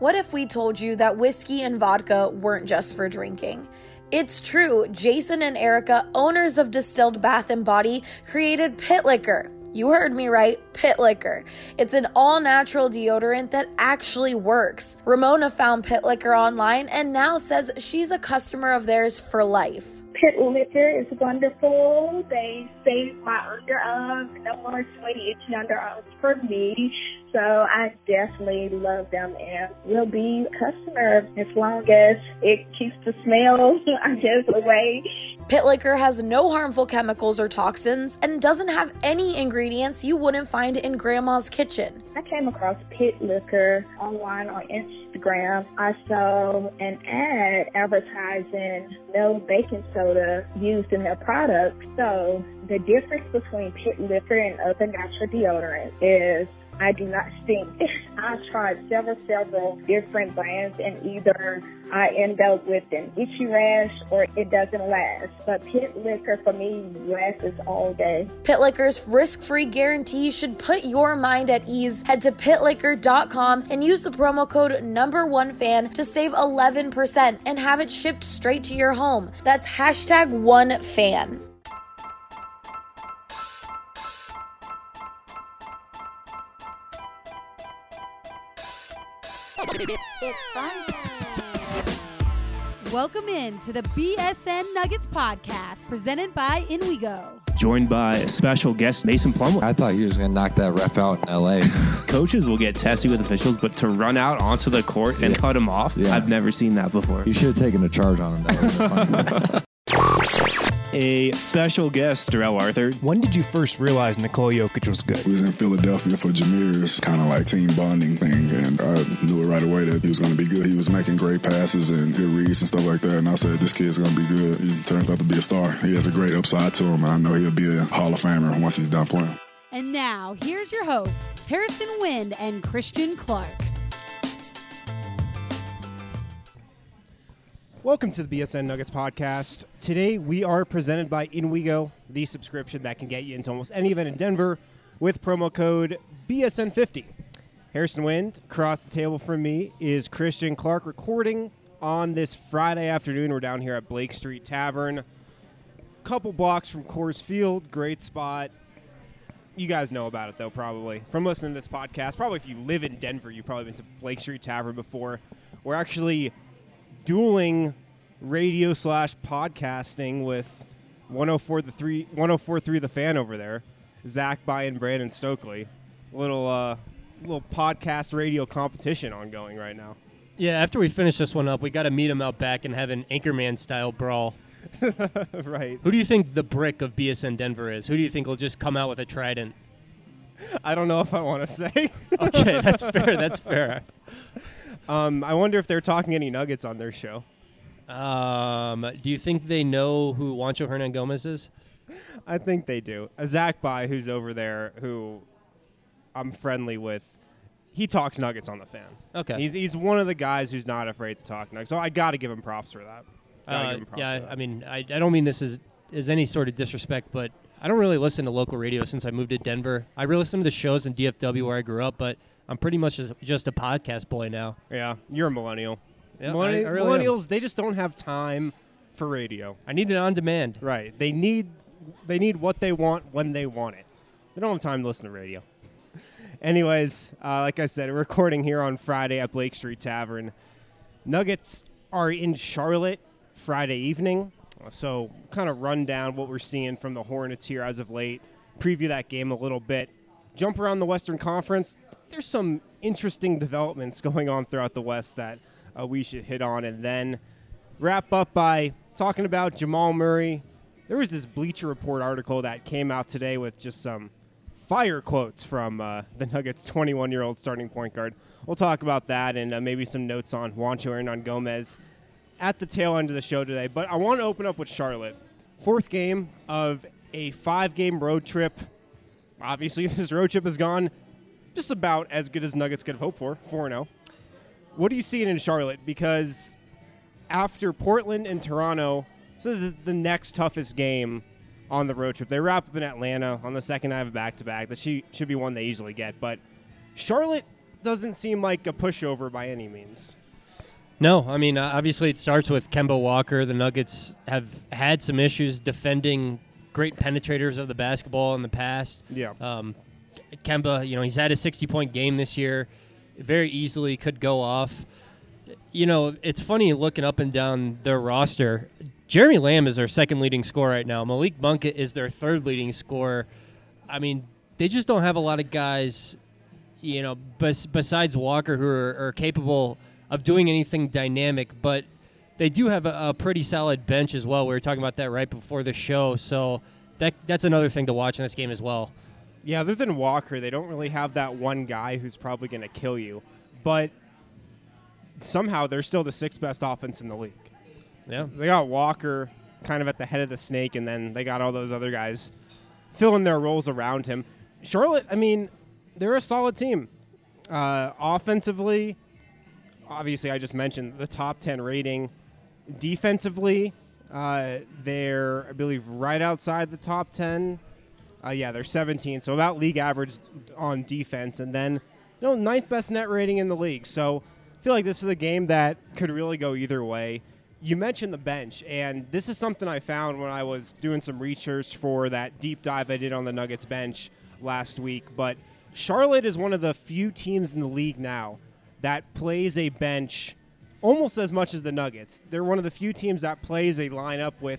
What if we told you that whiskey and vodka weren't just for drinking? It's true. Jason and Erica, owners of Distilled Bath & Body, created Pit Liquor. You heard me right, Pit Liquor. It's an all-natural deodorant that actually works. Ramona found Pit Liquor online and now says she's a customer of theirs for life. Pit Liquor is wonderful. They save my underarms. No more sweaty, itchy underarms for me. So I definitely love them and will be a customer as long as it keeps the smell, I guess, away. Pit Liquor has no harmful chemicals or toxins and doesn't have any ingredients you wouldn't find in Grandma's kitchen. I came across Pit Liquor online on Instagram. I saw an ad advertising no baking soda used in their product. So the difference between Pit Liquor and other natural deodorants is I do not stink. I've tried several different brands and either I end up with an itchy rash or it doesn't last. But Pit Liquor for me lasts all day. Pit Liquor's risk-free guarantee should put your mind at ease. Head to pitliquor.com and use the promo code #OneFan to save 11% and have it shipped straight to your home. That's #OneFan. It's fun. Welcome in to the BSN Nuggets podcast presented by InWeGo. Joined by a special guest, Mason Plumlee. I thought he was going to knock that ref out in L.A. Coaches will get testy with officials, but to run out onto the court and cut him off, I've never seen that before. You should have taken a charge on him. That would have been funny. A special guest, Darrell Arthur. When did you first realize Nikola Jokic was good? We was in Philadelphia for Jameer's kind of like team bonding thing, and I knew it right away that he was going to be good. He was making great passes and good reads and stuff like that, and I said, this kid's going to be good. He turns out to be a star. He has a great upside to him, and I know he'll be a Hall of Famer once he's done playing. And now, here's your hosts, Harrison Wind and Christian Clark. Welcome to the BSN Nuggets podcast. Today we are presented by InWeGo, the subscription that can get you into almost any event in Denver with promo code BSN50. Harrison Wind, across the table from me is Christian Clark, recording on this Friday afternoon. We're down here at Blake Street Tavern, couple blocks from Coors Field, great spot. You guys know about it, though, probably, from listening to this podcast. Probably if you live in Denver, you've probably been to Blake Street Tavern before. We're actually dueling radio / podcasting with 104.3 The Fan over there, Zach By and Brandon Stokely. Little podcast radio competition ongoing right now. Yeah, after we finish this one up, we got to meet him out back and have an Anchorman-style brawl. Right. Who do you think the brick of BSN Denver is? Who do you think will just come out with a trident? I don't know if I want to say. Okay, that's fair. That's fair. I wonder if they're talking any Nuggets on their show. Do you think they know who Juancho Hernangomez is? I think they do. Zach By, who's over there, who I'm friendly with, he talks Nuggets on the Fan. Okay. He's one of the guys who's not afraid to talk Nuggets, so I got to give him props for that. I mean, I don't mean this as any sort of disrespect, but I don't really listen to local radio since I moved to Denver. I really listen to the shows in DFW where I grew up, but I'm pretty much just a podcast boy now. Yeah, you're a millennial. Yeah, Millennials, they just don't have time for radio. I need it on demand. Right. They need what they want when they want it. They don't have time to listen to radio. Anyways, like I said, we're recording here on Friday at Blake Street Tavern. Nuggets are in Charlotte Friday evening, so kind of run down what we're seeing from the Hornets here as of late, preview that game a little bit, jump around the Western Conference. There's some interesting developments going on throughout the West that we should hit on, and then wrap up by talking about Jamal Murray. There was this Bleacher Report article that came out today with just some fire quotes from the Nuggets' 21-year-old starting point guard. We'll talk about that and maybe some notes on Juancho Hernangomez at the tail end of the show today. But I want to open up with Charlotte. Fourth game of a 5-game road trip. Obviously, this road trip has gone just about as good as Nuggets could have hoped for, 4-0. What are you seeing in Charlotte? Because after Portland and Toronto, so this is the next toughest game on the road trip. They wrap up in Atlanta on the second night of a back-to-back. That should be one they easily get. But Charlotte doesn't seem like a pushover by any means. No, I mean, obviously it starts with Kemba Walker. The Nuggets have had some issues defending great penetrators of the basketball in the past. Yeah. Kemba, he's had a 60-point game this year. Very easily could go off. It's funny looking up and down their roster. Jeremy Lamb is their second leading scorer right now. Malik Monk is their third leading scorer. I mean, they just don't have a lot of guys, besides Walker who are capable of doing anything dynamic, but they do have a pretty solid bench as well. We were talking about that right before the show, so that's another thing to watch in this game as well. Yeah, other than Walker, they don't really have that one guy who's probably going to kill you, but somehow they're still the sixth best offense in the league. Yeah. They got Walker kind of at the head of the snake, and then they got all those other guys filling their roles around him. Charlotte, I mean, they're a solid team. Offensively, obviously, I just mentioned the top 10 rating. Defensively, they're, I believe, right outside the top 10. They're 17, so about league average on defense. And then, ninth best net rating in the league. So I feel like this is a game that could really go either way. You mentioned the bench, and this is something I found when I was doing some research for that deep dive I did on the Nuggets bench last week. But Charlotte is one of the few teams in the league now that plays a bench almost as much as the Nuggets. They're one of the few teams that plays a lineup with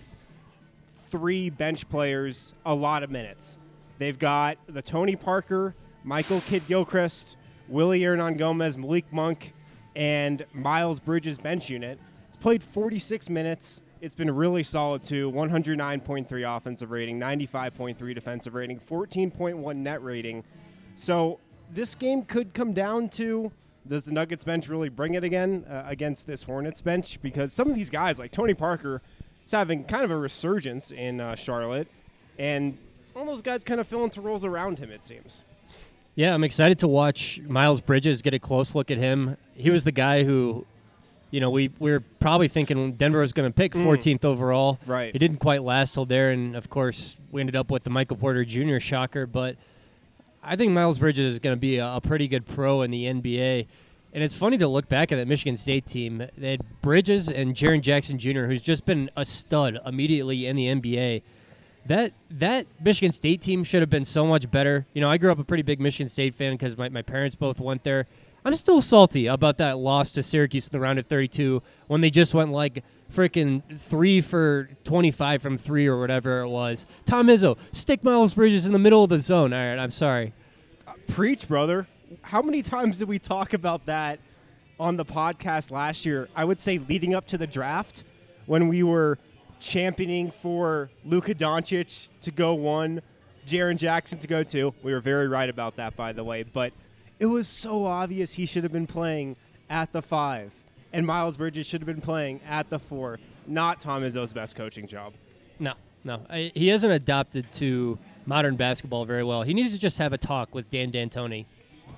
3 bench players a lot of minutes. They've got the Tony Parker, Michael Kidd-Gilchrist, Willie Hernan-Gomez, Malik Monk, and Miles Bridges bench unit. It's played 46 minutes. It's been really solid, too. 109.3 offensive rating, 95.3 defensive rating, 14.1 net rating. So this game could come down to, does the Nuggets bench really bring it again against this Hornets bench? Because some of these guys, like Tony Parker, is having kind of a resurgence in Charlotte, and all those guys kind of fill into roles around him, it seems. Yeah, I'm excited to watch Miles Bridges, get a close look at him. He was the guy who, we were probably thinking Denver was going to pick 14th overall. Right. He didn't quite last till there, and, of course, we ended up with the Michael Porter Jr. shocker. But I think Miles Bridges is going to be a pretty good pro in the NBA. And it's funny to look back at that Michigan State team. They had Bridges and Jaren Jackson Jr., who's just been a stud immediately in the NBA. That Michigan State team should have been so much better. I grew up a pretty big Michigan State fan because my parents both went there. I'm still salty about that loss to Syracuse in the round of 32 when they just went like freaking 3 for 25 from 3 or whatever it was. Tom Izzo, stick Miles Bridges in the middle of the zone. All right, I'm sorry. Preach, brother. How many times did we talk about that on the podcast last year? I would say leading up to the draft when we were championing for Luka Doncic to go 1, Jaren Jackson to go 2. We were very right about that, by the way. But it was so obvious he should have been playing at the 5, and Miles Bridges should have been playing at the 4. Not Tom Izzo's best coaching job. No. He hasn't adopted to modern basketball very well. He needs to just have a talk with Dan D'Antoni.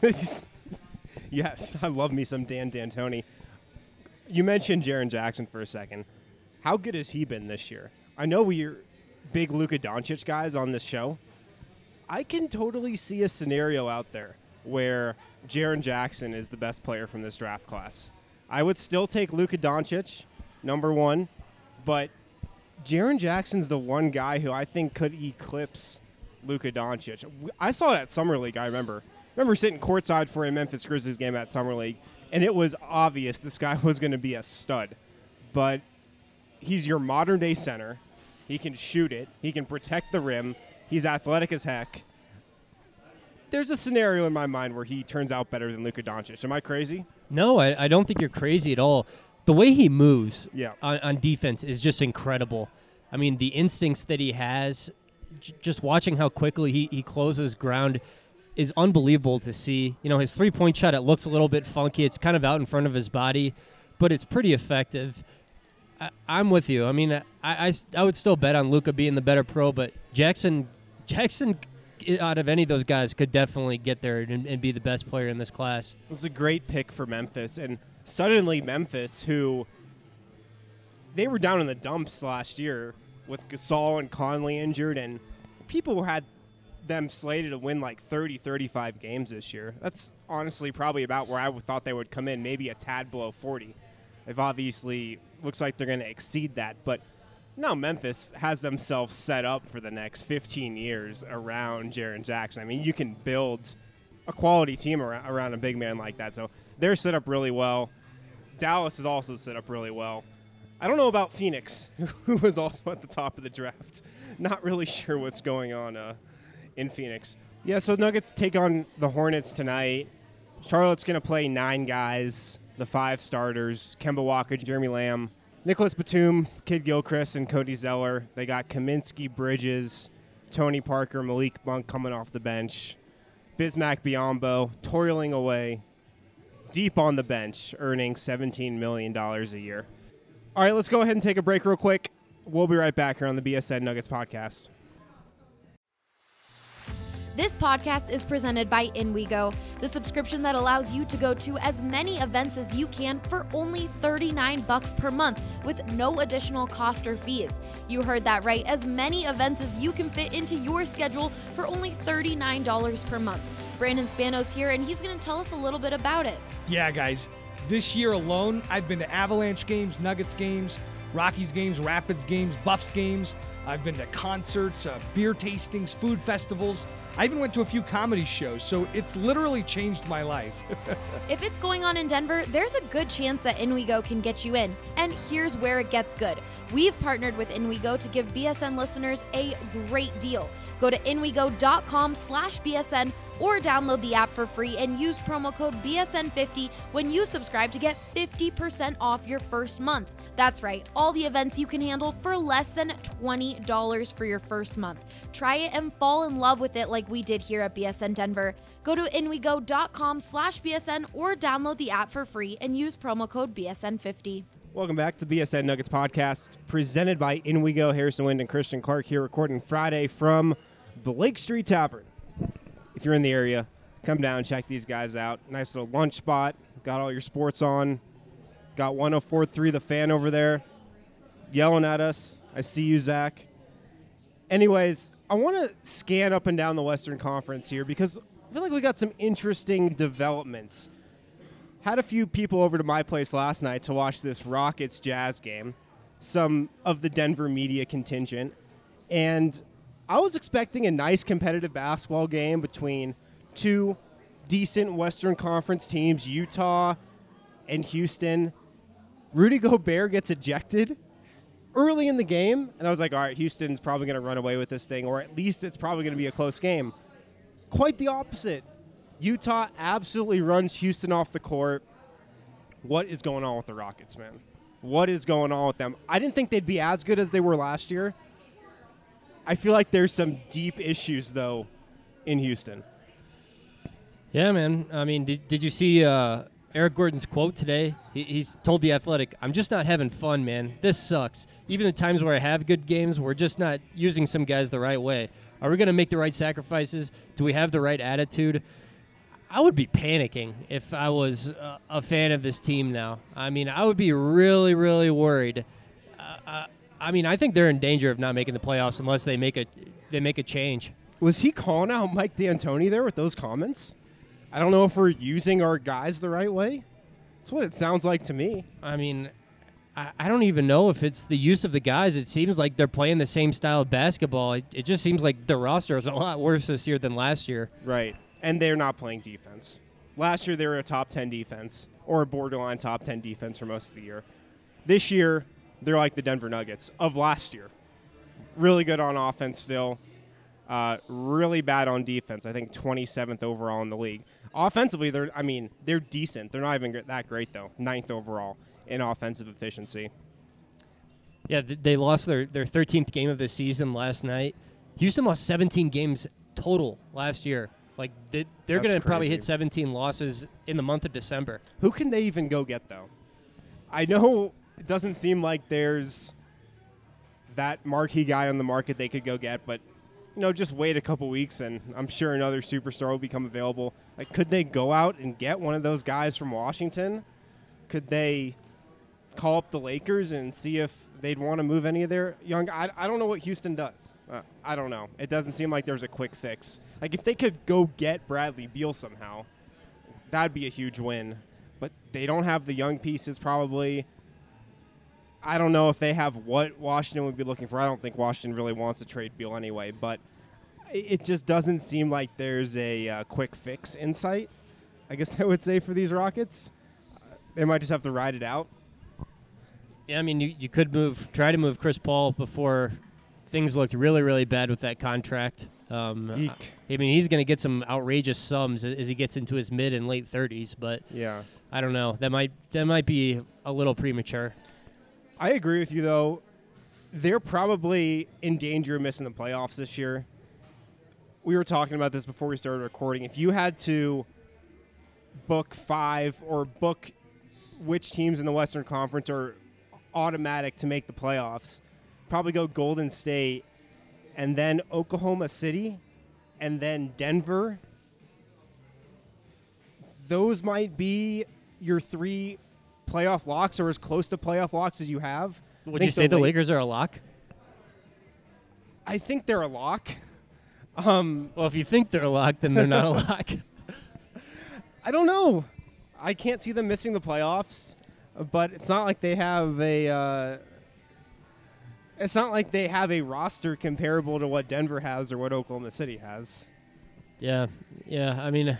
Yes, I love me some Dan D'Antoni. You mentioned Jaren Jackson for a second. How good has he been this year? I know we're big Luka Doncic guys on this show. I can totally see a scenario out there where Jaren Jackson is the best player from this draft class. I would still take Luka Doncic, number 1, but Jaren Jackson's the one guy who I think could eclipse Luka Doncic. I saw it at Summer League, I remember sitting courtside for a Memphis Grizzlies game at Summer League, and it was obvious this guy was going to be a stud. But he's your modern-day center. He can shoot it. He can protect the rim. He's athletic as heck. There's a scenario in my mind where he turns out better than Luka Doncic. Am I crazy? No, I don't think you're crazy at all. The way he moves Yeah. on defense is just incredible. I mean, the instincts that he has, just watching how quickly he closes ground is unbelievable to see. His three-point shot, it looks a little bit funky. It's kind of out in front of his body, but it's pretty effective. I'm with you. I mean, I would still bet on Luka being the better pro, but Jackson, out of any of those guys, could definitely get there and be the best player in this class. It was a great pick for Memphis, and suddenly Memphis, who they were down in the dumps last year with Gasol and Conley injured, and people had them slated to win like 30, 35 games this year. That's honestly probably about where I thought they would come in, maybe a tad below 40. They've obviously looks like they're going to exceed that. But no, Memphis has themselves set up for the next 15 years around Jaren Jackson. I mean, you can build a quality team around a big man like that. So they're set up really well. Dallas is also set up really well. I don't know about Phoenix, who was also at the top of the draft. Not really sure what's going on in Phoenix. Yeah, so Nuggets take on the Hornets tonight. Charlotte's going to play 9 guys, the 5 starters, Kemba Walker, Jeremy Lamb, Nicholas Batum, Kid Gilchrist, and Cody Zeller. They got Kaminsky, Bridges, Tony Parker, Malik Monk coming off the bench, Bismack Biyombo toiling away deep on the bench, earning $17 million a year. All right, let's go ahead and take a break real quick. We'll be right back here on the BSN Nuggets podcast. This podcast is presented by InWeGo, the subscription that allows you to go to as many events as you can for only $39 per month with no additional cost or fees. You heard that right, as many events as you can fit into your schedule for only $39 per month. Brandon Spanos here, and he's going to tell us a little bit about it. Yeah, guys. This year alone, I've been to Avalanche games, Nuggets games, Rockies games, Rapids games, Buffs games. I've been to concerts, beer tastings, food festivals. I even went to a few comedy shows, so it's literally changed my life. If it's going on in Denver, there's a good chance that InWeGo can get you in. And here's where it gets good. We've partnered with InWeGo to give BSN listeners a great deal. Go to inwego.com/BSN or download the app for free and use promo code BSN50 when you subscribe to get 50% off your first month. That's right, all the events you can handle for less than $20 for your first month. Try it and fall in love with it like we did here at BSN Denver. Go to inwego.com/BSN or download the app for free and use promo code BSN50. Welcome back to the BSN Nuggets podcast, presented by InWeGo. Harrison Wind and Christian Clark here, recording Friday from Blake Street Tavern. If you're in the area, come down and check these guys out. Nice little lunch spot. Got all your sports on. Got 104.3 The Fan over there yelling at us. I see you, Zach. Anyways, I want to scan up and down the Western Conference here because I feel like we got some interesting developments. Had a few people over to my place last night to watch this Rockets-Jazz game, some of the Denver media contingent, and I was expecting a nice competitive basketball game between two decent Western Conference teams, Utah and Houston. Rudy Gobert gets ejected early in the game, and I was like, all right, Houston's probably going to run away with this thing, or at least it's probably going to be a close game. Quite the opposite. Utah absolutely runs Houston off the court. What is going on with the Rockets, man? What is going on with them? I didn't think they'd be as good as they were last year. I feel like there's some deep issues, though, in Houston. Yeah, man. I mean, did you see Eric Gordon's quote today? He's told The Athletic, "I'm just not having fun, man. This sucks. Even the times where I have good games, we're just not using some guys the right way. Are we going to make the right sacrifices? Do we have the right attitude?" I would be panicking if I was a fan of this team now. I mean, I would be really, really worried. I mean, I think they're in danger of not making the playoffs unless they make a change. Was he calling out Mike D'Antoni there with those comments? I don't know if we're using our guys the right way. That's what it sounds like to me. I mean, I don't even know if it's the use of the guys. It seems like they're playing the same style of basketball. It just seems like the roster is a lot worse this year than last year. Right. And they're not playing defense. Last year, they were a top 10 defense or a borderline top 10 defense for most of the year. This year, they're like the Denver Nuggets of last year. Really good on offense still. Really bad on defense. I think 27th overall in the league. Offensively, they're decent. They're not even that great, though. 9th overall in offensive efficiency. Yeah, they lost their 13th game of the season last night. Houston lost 17 games total last year. Like, they're going to probably hit 17 losses in the month of December. Who can they even go get, though? I know it doesn't seem like there's that marquee guy on the market they could go get, but, just wait a couple weeks, and I'm sure another superstar will become available. Like, could they go out and get one of those guys from Washington? Could they call up the Lakers and see if they'd want to move any of their young. I don't know what Houston does. I don't know. It doesn't seem like there's a quick fix. Like if they could go get Bradley Beal somehow, that'd be a huge win. But they don't have the young pieces probably. I don't know if they have what Washington would be looking for. I don't think Washington really wants to trade Beal anyway, but it just doesn't seem like there's a quick fix in sight, I guess I would say, for these Rockets. They might just have to ride it out. Yeah, I mean, you could try to move Chris Paul before things looked really, really bad with that contract. I mean, he's going to get some outrageous sums as he gets into his mid and late 30s, but yeah, I don't know. That might be a little premature. I agree with you, though. They're probably in danger of missing the playoffs this year. We were talking about this before we started recording. If you had to book 5 or book which teams in the Western Conference are automatic to make the playoffs, probably go Golden State and then Oklahoma City and then Denver. Those might be your 3 playoff locks, or as close to playoff locks as you have. Would you say the Lakers are a lock? I think they're a lock. Well, if you think they're a lock, then they're not a lock. I don't know. I can't see them missing the playoffs, but it's not like they have a. It's not like they have a roster comparable to what Denver has or what Oklahoma City has. Yeah. I mean,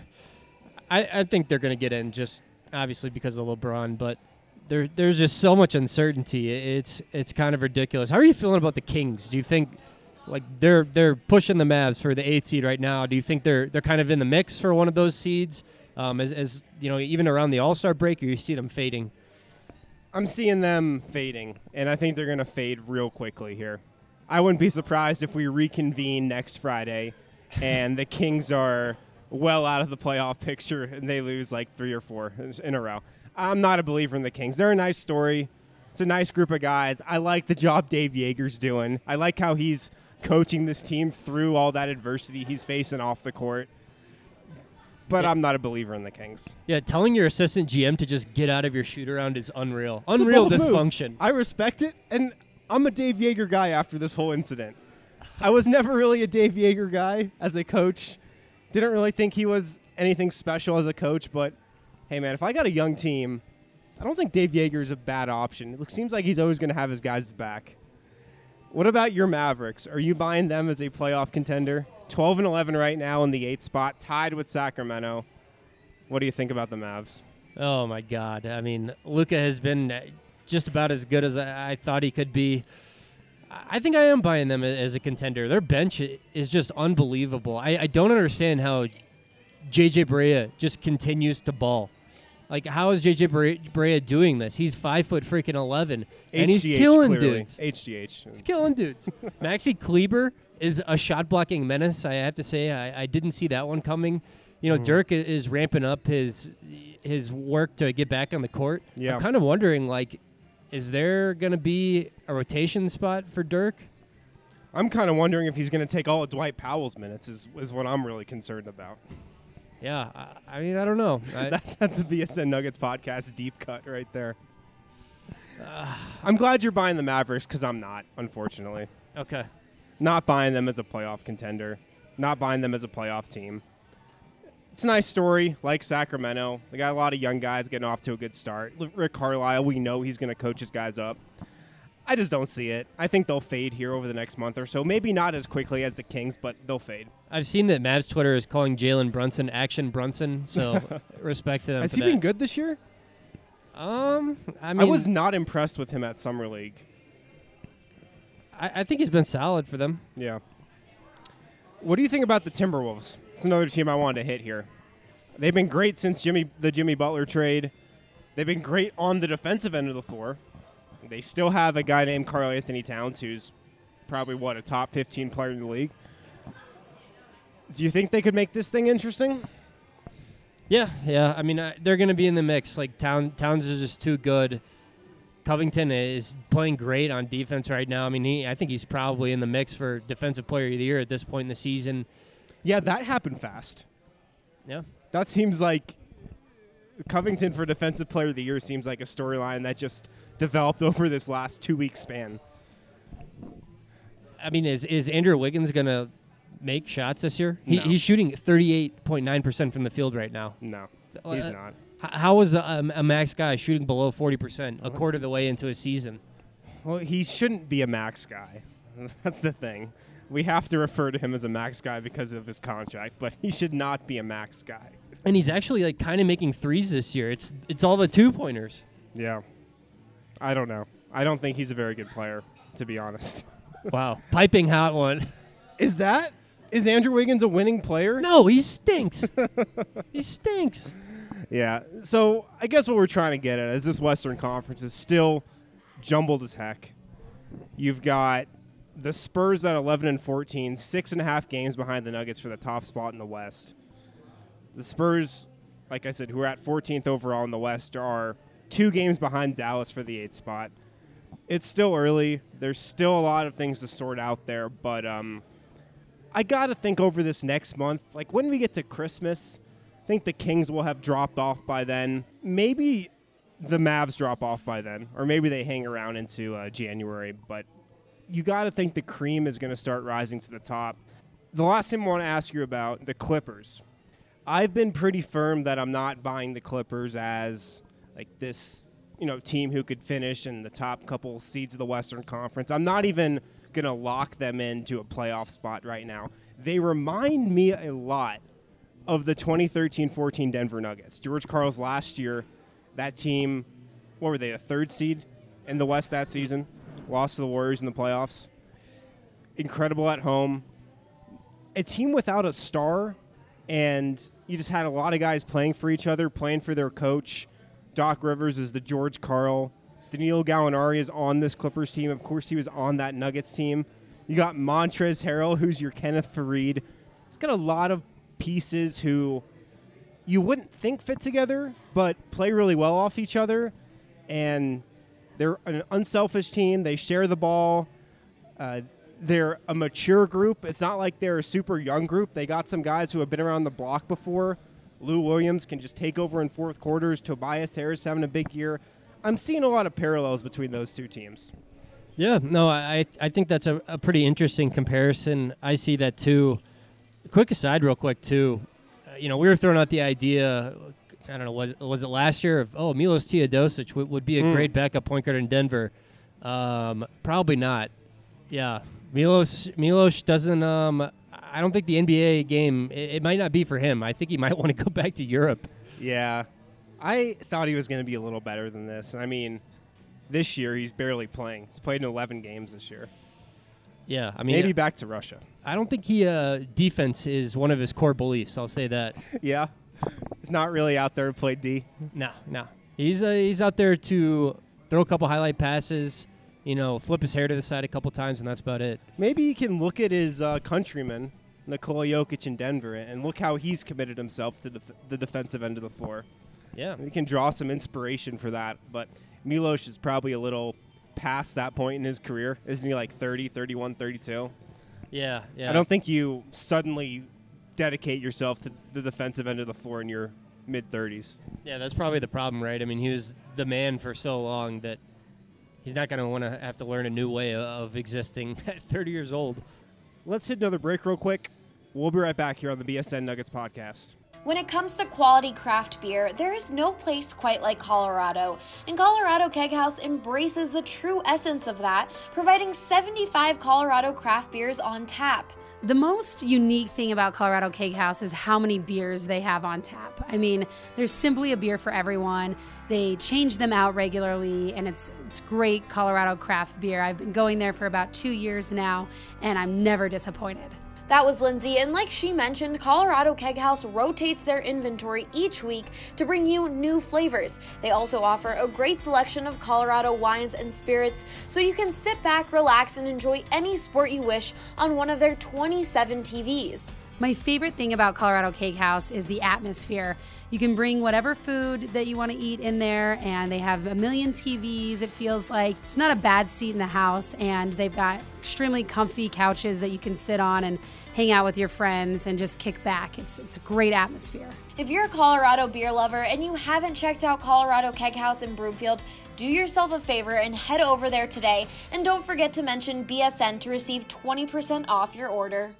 I think they're going to get in just obviously because of LeBron, but there's just so much uncertainty. It's kind of ridiculous. How are you feeling about the Kings? Do you think like they're pushing the Mavs for the 8th seed right now? Do you think they're kind of in the mix for one of those seeds? As you know, even around the All-Star break, or you see them fading? I'm seeing them fading, and I think they're going to fade real quickly here. I wouldn't be surprised if we reconvene next Friday and the Kings are well out of the playoff picture and they lose like 3 or 4 in a row. I'm not a believer in the Kings. They're a nice story. It's a nice group of guys. I like the job Dave Yeager's doing. I like how he's coaching this team through all that adversity he's facing off the court. But I'm not a believer in the Kings. Yeah, telling your assistant GM to just get out of your shoot-around is unreal. Unreal dysfunction. I respect it, and I'm a Dave Yeager guy after this whole incident. I was never really a Dave Yeager guy as a coach. Didn't really think he was anything special as a coach, but, hey, man, if I got a young team, I don't think Dave Yeager is a bad option. It seems like he's always going to have his guys' back. What about your Mavericks? Are you buying them as a playoff contender? 12-11 right now in the 8th spot, tied with Sacramento. What do you think about the Mavs? Oh, my God. I mean, Luka has been just about as good as I thought he could be. I think I am buying them as a contender. Their bench is just unbelievable. I don't understand how J.J. Barea just continues to ball. Like, how is J.J. Barea doing this? He's 5'11", and he's killing dudes. HGH. He's killing dudes. Maxi Kleber is a shot-blocking menace, I have to say. I didn't see that one coming. You know, Dirk is ramping up his work to get back on the court. Yeah. I'm kind of wondering, like, is there going to be a rotation spot for Dirk? I'm kind of wondering if he's going to take all of Dwight Powell's minutes is what I'm really concerned about. Yeah, I mean, I don't know. That's a BSN Nuggets podcast deep cut right there. I'm glad you're buying the Mavericks because I'm not, unfortunately. Okay. Not buying them as a playoff contender. Not buying them as a playoff team. It's a nice story, like Sacramento. They got a lot of young guys getting off to a good start. Rick Carlisle, we know he's going to coach his guys up. I just don't see it. I think they'll fade here over the next month or so. Maybe not as quickly as the Kings, but they'll fade. I've seen that Mavs Twitter is calling Jalen Brunson Action Brunson, so respect to them. Has for he that. been good this year? I mean, I was not impressed with him at Summer League. I think he's been solid for them. Yeah. What do you think about the Timberwolves? It's another team I wanted to hit here. They've been great since the Jimmy Butler trade. They've been great on the defensive end of the floor. They still have a guy named Karl Anthony Towns who's probably, a top 15 player in the league. Do you think they could make this thing interesting? Yeah. I mean, they're going to be in the mix. Like, Towns is just too good. Covington is playing great on defense right now. I mean, I think he's probably in the mix for Defensive Player of the Year at this point in the season. Yeah, that happened fast. Yeah. That seems like Covington for Defensive Player of the Year seems like a storyline that just developed over this last 2-week span. I mean, is Andrew Wiggins going to make shots this year? No. He's shooting 38.9% from the field right now. No, he's not. How is a max guy shooting below 40% a quarter of the way into a season? Well, he shouldn't be a max guy. That's the thing. We have to refer to him as a max guy because of his contract, but he should not be a max guy. And he's actually like kind of making threes this year. It's all the 2-pointers. Yeah. I don't know. I don't think he's a very good player, to be honest. Wow. Piping hot one. Is Andrew Wiggins a winning player? No, he stinks. He stinks. Yeah. So I guess what we're trying to get at is this Western Conference is still jumbled as heck. You've got the Spurs at 11-14, 6.5 games behind the Nuggets for the top spot in the West. The Spurs, like I said, who are at 14th overall in the West, are 2 games behind Dallas for the 8th spot. It's still early. There's still a lot of things to sort out there, but I got to think over this next month. Like when we get to Christmas, I think the Kings will have dropped off by then. Maybe the Mavs drop off by then, or maybe they hang around into January, but you got to think the cream is going to start rising to the top. The last thing I want to ask you about, the Clippers. I've been pretty firm that I'm not buying the Clippers as like this, team who could finish in the top couple seeds of the Western Conference. I'm not even going to lock them into a playoff spot right now. They remind me a lot of the 2013-14 Denver Nuggets. George Karl's last year, that team, what were they, a 3rd seed in the West that season? Lost to the Warriors in the playoffs. Incredible at home. A team without a star, and you just had a lot of guys playing for each other, playing for their coach. Doc Rivers is the George Karl. Danilo Gallinari is on this Clippers team. Of course, he was on that Nuggets team. You got Montrezl Harrell, who's your Kenneth Faried. It's got a lot of pieces who you wouldn't think fit together, but play really well off each other. And they're an unselfish team. They share the ball. They're a mature group. It's not like they're a super young group. They got some guys who have been around the block before. Lou Williams can just take over in fourth quarters. Tobias Harris having a big year. I'm seeing a lot of parallels between those two teams. Yeah, no, I think that's a pretty interesting comparison. I see that too. Quick aside real quick too. We were throwing out the idea, I don't know, was it last year of, Milos Teodosic would be a great backup point guard in Denver. Probably not. Yeah, Milos doesn't, I don't think the NBA game, it might not be for him. I think he might want to go back to Europe. Yeah. I thought he was going to be a little better than this. I mean, this year he's barely playing. He's played in 11 games this year. Yeah, I mean, maybe back to Russia. I don't think defense is one of his core beliefs. I'll say that. Yeah, he's not really out there to play D. No. He's out there to throw a couple highlight passes, flip his hair to the side a couple times, and that's about it. Maybe he can look at his countryman, Nikola Jokic in Denver, and look how he's committed himself to the defensive end of the floor. Yeah. We can draw some inspiration for that, but Milos is probably a little past that point in his career. Isn't he like 30, 31, 32? Yeah. I don't think you suddenly dedicate yourself to the defensive end of the floor in your mid-30s. Yeah, that's probably the problem, right? I mean, he was the man for so long that he's not going to want to have to learn a new way of existing at 30 years old. Let's hit another break real quick. We'll be right back here on the BSN Nuggets podcast. When it comes to quality craft beer, there is no place quite like Colorado. And Colorado Keg House embraces the true essence of that, providing 75 Colorado craft beers on tap. The most unique thing about Colorado Keg House is how many beers they have on tap. I mean, there's simply a beer for everyone. They change them out regularly, and it's great Colorado craft beer. I've been going there for about 2 years now, and I'm never disappointed. That was Lindsay, and like she mentioned, Colorado Keg House rotates their inventory each week to bring you new flavors. They also offer a great selection of Colorado wines and spirits, so you can sit back, relax, and enjoy any sport you wish on one of their 27 TVs. My favorite thing about Colorado Cake House is the atmosphere. You can bring whatever food that you want to eat in there, and they have a million TVs. It feels like it's not a bad seat in the house, and they've got extremely comfy couches that you can sit on and hang out with your friends and just kick back. It's a great atmosphere. If you're a Colorado beer lover and you haven't checked out Colorado Keg House in Broomfield, do yourself a favor and head over there today. And don't forget to mention BSN to receive 20% off your order.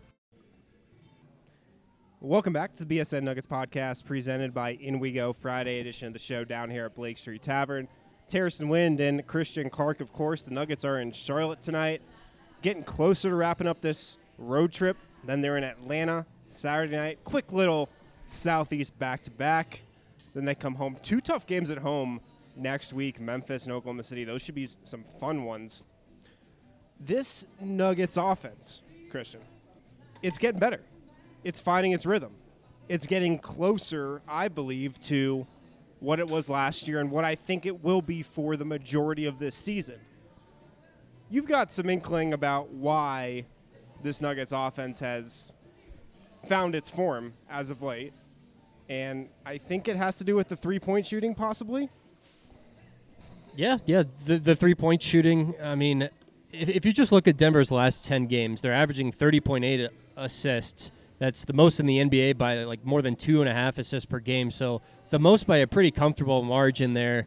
Welcome back to the BSN Nuggets podcast presented by In We Go, Friday edition of the show down here at Blake Street Tavern. Terrence Wind and Christian Clark, of course. The Nuggets are in Charlotte tonight, getting closer to wrapping up this road trip. Then they're in Atlanta Saturday night. Quick little Southeast back-to-back. Then they come home. 2 tough games at home next week, Memphis and Oklahoma City. Those should be some fun ones. This Nuggets offense, Christian, it's getting better. It's finding its rhythm. It's getting closer, I believe, to what it was last year and what I think it will be for the majority of this season. You've got some inkling about why this Nuggets offense has found its form as of late, and I think it has to do with the three-point shooting possibly. Yeah, the three-point shooting. I mean, if you just look at Denver's last 10 games, they're averaging 30.8 assists. That's the most in the NBA by like more than 2.5 assists per game. So the most by a pretty comfortable margin there.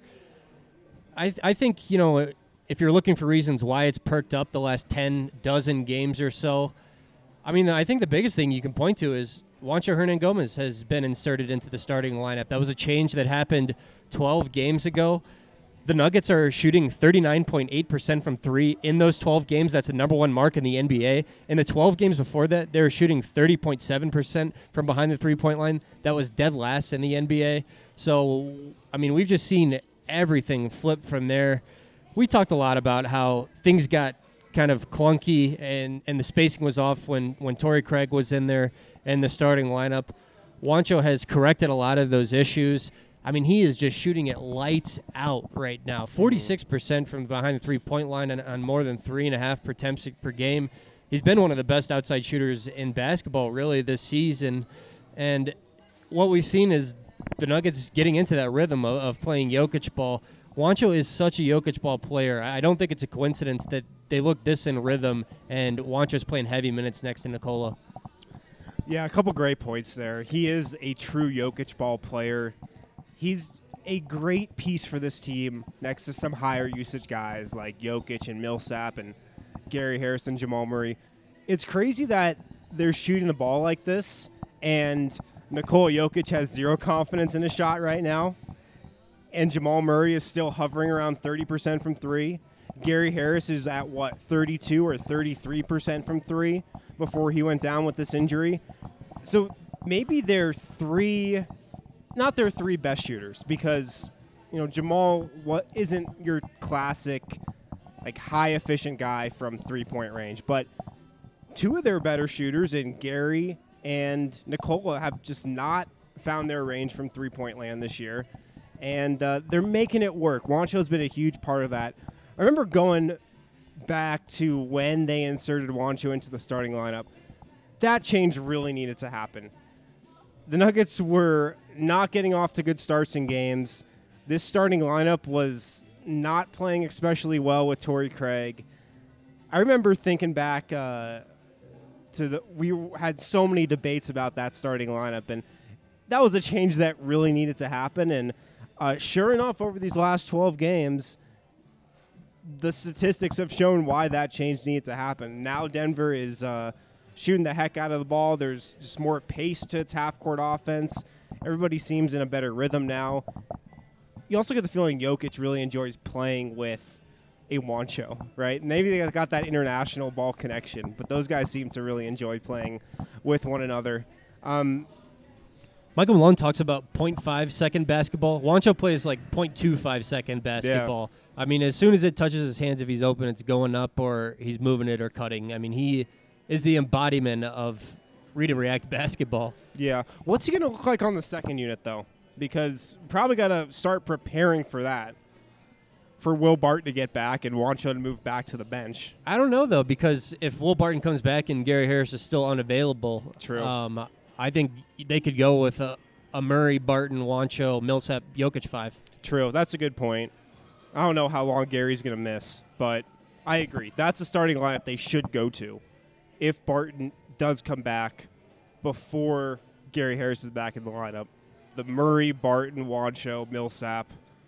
I think, you know, if you're looking for reasons why it's perked up the last 10 dozen games or so, I mean, I think the biggest thing you can point to is Juancho Hernangomez has been inserted into the starting lineup. That was a change that happened 12 games ago. The Nuggets are shooting 39.8% from three in those 12 games. That's the number one mark in the NBA. In the 12 games before that, they were shooting 30.7% from behind the three-point line. That was dead last in the NBA. So, I mean, we've just seen everything flip from there. We talked a lot about how things got kind of clunky and the spacing was off when Torrey Craig was in there in the starting lineup. Juancho has corrected a lot of those issues. I mean, he is just shooting it lights out right now. 46% from behind the three-point line on more than 3.5 attempts per game. He's been one of the best outside shooters in basketball, really, this season. And what we've seen is the Nuggets getting into that rhythm of playing Jokic ball. Juancho is such a Jokic ball player. I don't think it's a coincidence that they look this in rhythm, and Juancho's playing heavy minutes next to Nikola. Yeah, a couple great points there. He is a true Jokic ball player. He's a great piece for this team next to some higher usage guys like Jokic and Millsap and Gary Harris and Jamal Murray. It's crazy that they're shooting the ball like this, and Nikola Jokic has zero confidence in his shot right now, and Jamal Murray is still hovering around 30% from three. Gary Harris is at, 32 or 33% from three before he went down with this injury. So maybe they're not their three best shooters because, you know, Jamal isn't your classic, like, high-efficient guy from three-point range. But 2 of their better shooters in Gary and Nikola have just not found their range from three-point land this year. And they're making it work. Juancho's been a huge part of that. I remember going back to when they inserted Juancho into the starting lineup. That change really needed to happen. The Nuggets were not getting off to good starts in games. This starting lineup was not playing especially well with Torrey Craig. I remember thinking back we had so many debates about that starting lineup, and that was a change that really needed to happen. And sure enough, over these last 12 games, the statistics have shown why that change needed to happen. Now Denver is shooting the heck out of the ball. There's just more pace to its half-court offense. Everybody seems in a better rhythm now. You also get the feeling Jokic really enjoys playing with a Juancho, right? Maybe they got that international ball connection, but those guys seem to really enjoy playing with one another. Michael Malone talks about 0.5-second basketball. Juancho plays like 0.25-second basketball. Yeah. I mean, as soon as it touches his hands, if he's open, it's going up or he's moving it or cutting. I mean, he is the embodiment of read and react basketball. Yeah. What's he going to look like on the second unit, though? Because probably got to start preparing for that. for Will Barton to get back and Wancho to move back to the bench. I don't know, though, because if Will Barton comes back and Gary Harris is still unavailable, True. I think they could go with a Murray, Barton, Wancho, Millsap, Jokic 5. True. That's a good point. I don't know how long Gary's going to miss, but I agree. That's a starting lineup they should go to if Barton does come back before Gary Harris is back in the lineup. The Murray, Barton, Wancho, Millsap,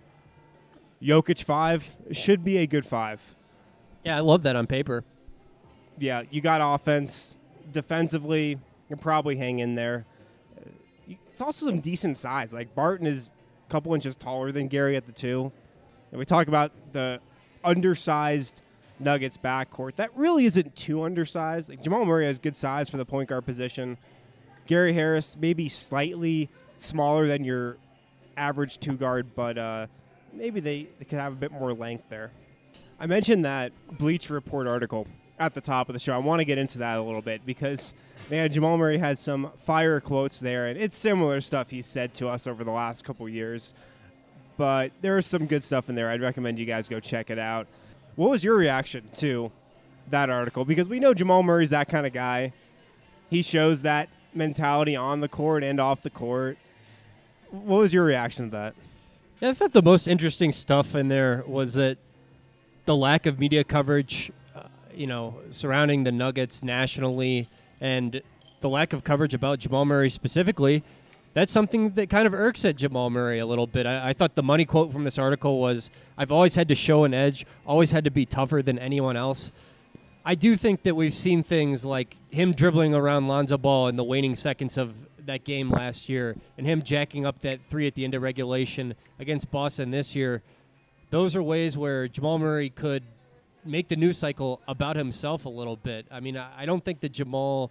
Jokic 5 should be a good 5. Yeah, I love that on paper. Yeah, you got offense. Defensively, you can probably hang in there. It's also some decent size. Like, Barton is a couple inches taller than Gary at the 2. And we talk about the undersized Nuggets backcourt. That really isn't too undersized. Like, Jamal Murray has good size for the point guard position. Gary Harris maybe slightly smaller than your average 2-guard, but maybe they could have a bit more length there. I mentioned that Bleacher Report article at the top of the show. I want to get into that a little bit because, man, Jamal Murray had some fire quotes there, and it's similar stuff he's said to us over the last couple years. But there is some good stuff in there. I'd recommend you guys go check it out. What was your reaction to that article? Because we know Jamal Murray's that kind of guy. He shows that mentality on the court and off the court. What was your reaction to that? Yeah, I thought the most interesting stuff in there was that the lack of media coverage, surrounding the Nuggets nationally, and the lack of coverage about Jamal Murray specifically. That's something that kind of irks at Jamal Murray a little bit. I thought the money quote from this article was, "I've always had to show an edge, always had to be tougher than anyone else." I do think that we've seen things like him dribbling around Lonzo Ball in the waning seconds of that game last year and him jacking up that 3 at the end of regulation against Boston this year. Those are ways where Jamal Murray could make the news cycle about himself a little bit. I mean, I don't think that Jamal...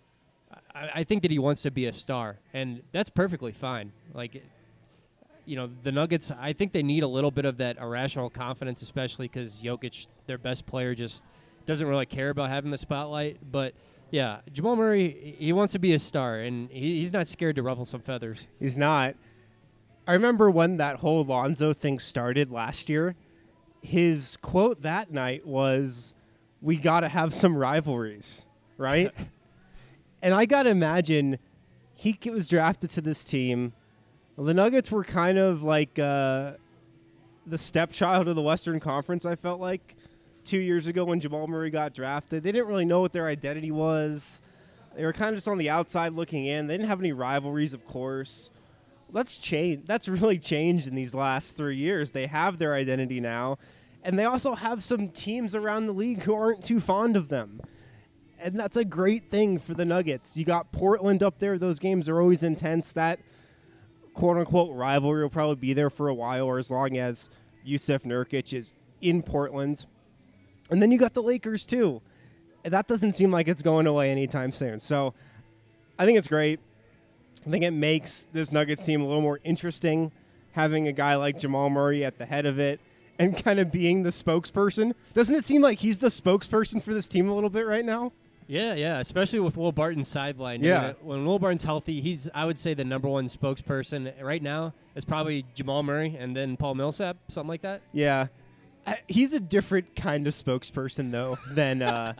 I think that he wants to be a star, and that's perfectly fine. Like, the Nuggets, I think they need a little bit of that irrational confidence, especially because Jokic, their best player, just doesn't really care about having the spotlight. But, yeah, Jamal Murray, he wants to be a star, and he's not scared to ruffle some feathers. He's not. I remember when that whole Lonzo thing started last year, his quote that night was, "We got to have some rivalries," right? And I got to imagine he was drafted to this team. The Nuggets were kind of like the stepchild of the Western Conference, I felt like, 2 years ago when Jamal Murray got drafted. They didn't really know what their identity was. They were kind of just on the outside looking in. They didn't have any rivalries, of course. That's changed. That's really changed in these last 3 years. They have their identity now. And they also have some teams around the league who aren't too fond of them. And that's a great thing for the Nuggets. You got Portland up there. Those games are always intense. That quote-unquote rivalry will probably be there for a while, or as long as Yusuf Nurkic is in Portland. And then you got the Lakers, too. And that doesn't seem like it's going away anytime soon. So I think it's great. I think it makes this Nuggets team a little more interesting, having a guy like Jamal Murray at the head of it and kind of being the spokesperson. Doesn't it seem like he's the spokesperson for this team a little bit right now? Yeah, especially with Will Barton's sideline. Yeah. When Will Barton's healthy, he's, I would say, the number one spokesperson right now is probably Jamal Murray and then Paul Millsap, something like that. Yeah. He's a different kind of spokesperson, though, than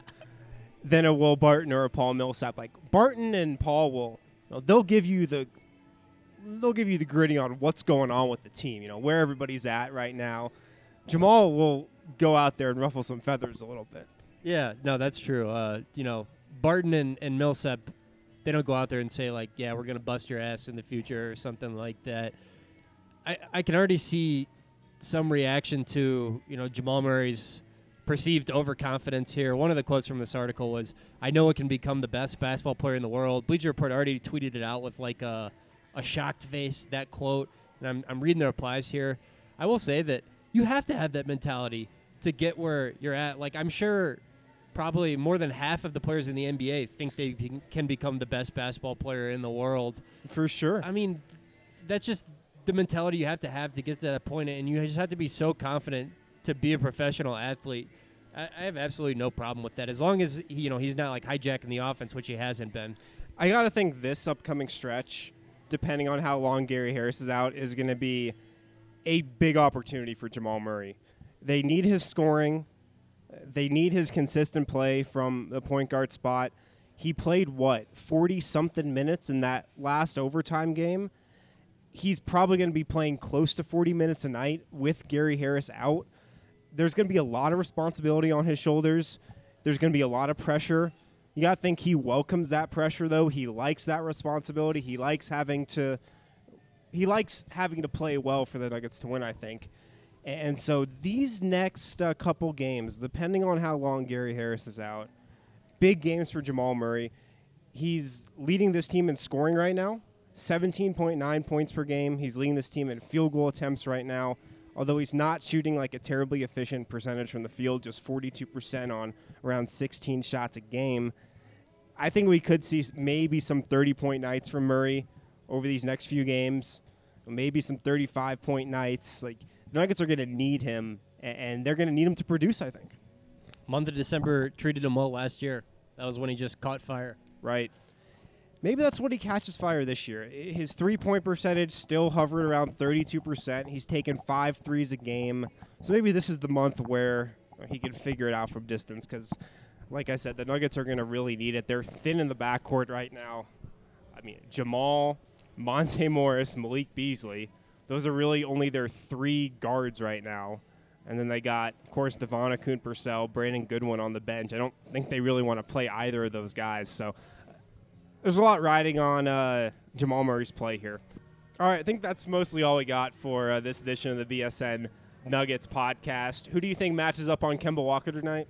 a Will Barton or a Paul Millsap. Like, Barton and Paul they'll give you the gritty on what's going on with the team, where everybody's at right now. Jamal will go out there and ruffle some feathers a little bit. Yeah, no, that's true. Barton and Millsap, they don't go out there and say, like, yeah, we're going to bust your ass in the future or something like that. I can already see some reaction to, Jamal Murray's perceived overconfidence here. One of the quotes from this article was, "I know it can become the best basketball player in the world." Bleacher Report already tweeted it out with, like, a shocked face, that quote. And I'm reading the replies here. I will say that you have to have that mentality to get where you're at. Like, I'm sure probably more than half of the players in the NBA think they can become the best basketball player in the world. For sure. I mean, that's just the mentality you have to get to that point, and you just have to be so confident to be a professional athlete. I have absolutely no problem with that, as long as he's not like hijacking the offense, which he hasn't been. I got to think this upcoming stretch, depending on how long Gary Harris is out, is going to be a big opportunity for Jamal Murray. They need his scoring. They need his consistent play from the point guard spot. He played, 40-something minutes in that last overtime game? He's probably going to be playing close to 40 minutes a night with Gary Harris out. There's going to be a lot of responsibility on his shoulders. There's going to be a lot of pressure. You got to think he welcomes that pressure, though. He likes that responsibility. He likes having to play well for the Nuggets to win, I think. And so these next couple games, depending on how long Gary Harris is out, big games for Jamal Murray. He's leading this team in scoring right now, 17.9 points per game. He's leading this team in field goal attempts right now, although he's not shooting like a terribly efficient percentage from the field, just 42% on around 16 shots a game. I think we could see maybe some 30-point nights from Murray over these next few games, maybe some 35-point nights. Like, the Nuggets are going to need him, and they're going to need him to produce, I think. Month of December treated him well last year. That was when he just caught fire. Right. Maybe that's when he catches fire this year. His three-point percentage still hovering around 32%. He's taken 5 threes a game. So maybe this is the month where he can figure it out from distance because, like I said, the Nuggets are going to really need it. They're thin in the backcourt right now. I mean, Jamal, Monte Morris, Malik Beasley, those are really only their 3 guards right now. And then they got, of course, Devon Akoon-Purcell, Brandon Goodwin on the bench. I don't think they really want to play either of those guys. So there's a lot riding on Jamal Murray's play here. All right, I think that's mostly all we got for this edition of the BSN Nuggets podcast. Who do you think matches up on Kemba Walker tonight?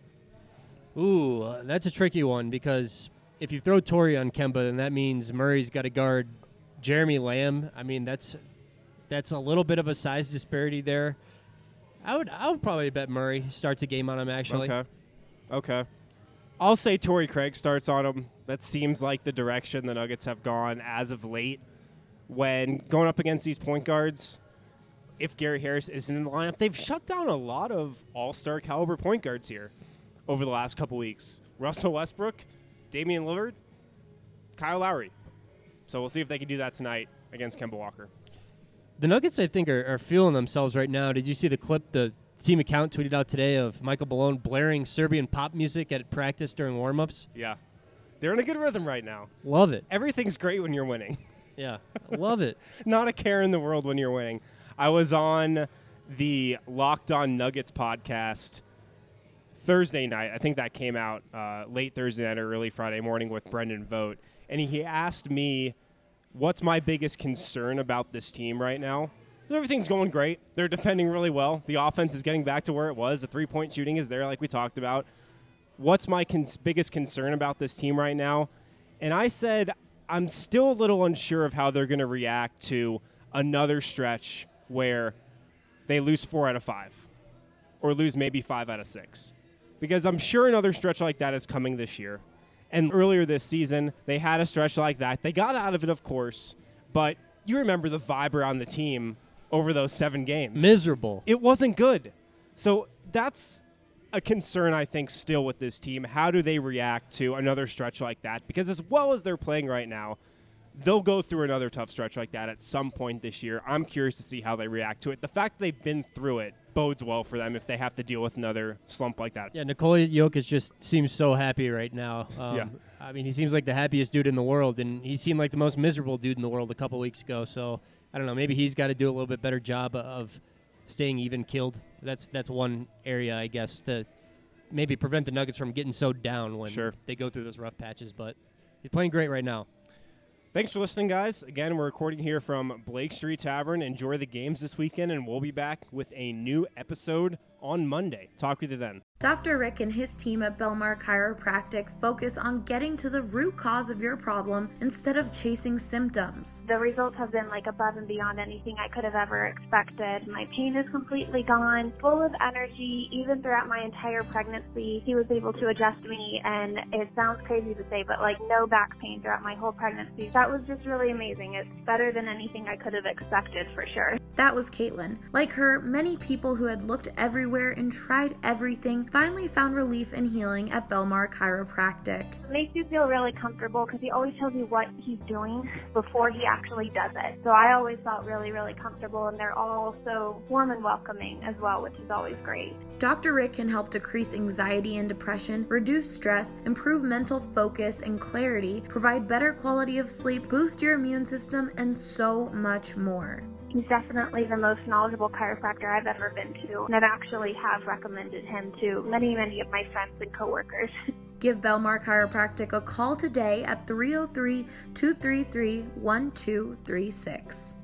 Ooh, that's a tricky one because if you throw Torrey on Kemba, then that means Murray's got to guard Jeremy Lamb. I mean, that's a little bit of a size disparity there. I would probably bet Murray starts a game on him, actually. Okay. I'll say Torrey Craig starts on him. That seems like the direction the Nuggets have gone as of late. When going up against these point guards, if Gary Harris isn't in the lineup, they've shut down a lot of all-star caliber point guards here over the last couple weeks. Russell Westbrook, Damian Lillard, Kyle Lowry. So we'll see if they can do that tonight against Kemba Walker. The Nuggets, I think, are feeling themselves right now. Did you see the clip the team account tweeted out today of Michael Malone blaring Serbian pop music at practice during warm-ups? Yeah. They're in a good rhythm right now. Love it. Everything's great when you're winning. Yeah, love it. Not a care in the world when you're winning. I was on the Locked On Nuggets podcast Thursday night. I think that came out late Thursday night or early Friday morning with Brendan Vogt. And he asked me, what's my biggest concern about this team right now? Everything's going great. They're defending really well. The offense is getting back to where it was. The three-point shooting is there like we talked about. What's my biggest concern about this team right now? And I said I'm still a little unsure of how they're going to react to another stretch where they lose 4 out of 5 or lose maybe 5 out of 6. Because I'm sure another stretch like that is coming this year. And earlier this season, they had a stretch like that. They got out of it, of course, but you remember the vibe around the team over those 7 games. Miserable. It wasn't good. So that's a concern, I think, still with this team. How do they react to another stretch like that? Because as well as they're playing right now, they'll go through another tough stretch like that at some point this year. I'm curious to see how they react to it. The fact that they've been through it bodes well for them if they have to deal with another slump like that. Yeah, Nikola Jokic just seems so happy right now. Yeah. I mean, he seems like the happiest dude in the world, and he seemed like the most miserable dude in the world a couple weeks ago. So, I don't know, maybe he's got to do a little bit better job of staying even-keeled. That's one area, I guess, to maybe prevent the Nuggets from getting so down when they go through those rough patches. But he's playing great right now. Thanks for listening, guys. Again, we're recording here from Blake Street Tavern. Enjoy the games this weekend, and we'll be back with a new episode on Monday. Talk with you then. Dr. Rick and his team at Belmar Chiropractic focus on getting to the root cause of your problem instead of chasing symptoms. The results have been like above and beyond anything I could have ever expected. My pain is completely gone, full of energy. Even throughout my entire pregnancy, he was able to adjust me, and it sounds crazy to say, but like no back pain throughout my whole pregnancy. That was just really amazing. It's better than anything I could have expected for sure. That was Caitlin. Like her, many people who had looked everywhere and tried everything finally found relief and healing at Belmar Chiropractic. It makes you feel really comfortable because he always tells you what he's doing before he actually does it. So I always felt really, really comfortable, and they're all so warm and welcoming as well, which is always great. Dr. Rick can help decrease anxiety and depression, reduce stress, improve mental focus and clarity, provide better quality of sleep, boost your immune system, and so much more. He's definitely the most knowledgeable chiropractor I've ever been to, and I've actually have recommended him to many, many of my friends and coworkers. Give Belmar Chiropractic a call today at 303-233-1236.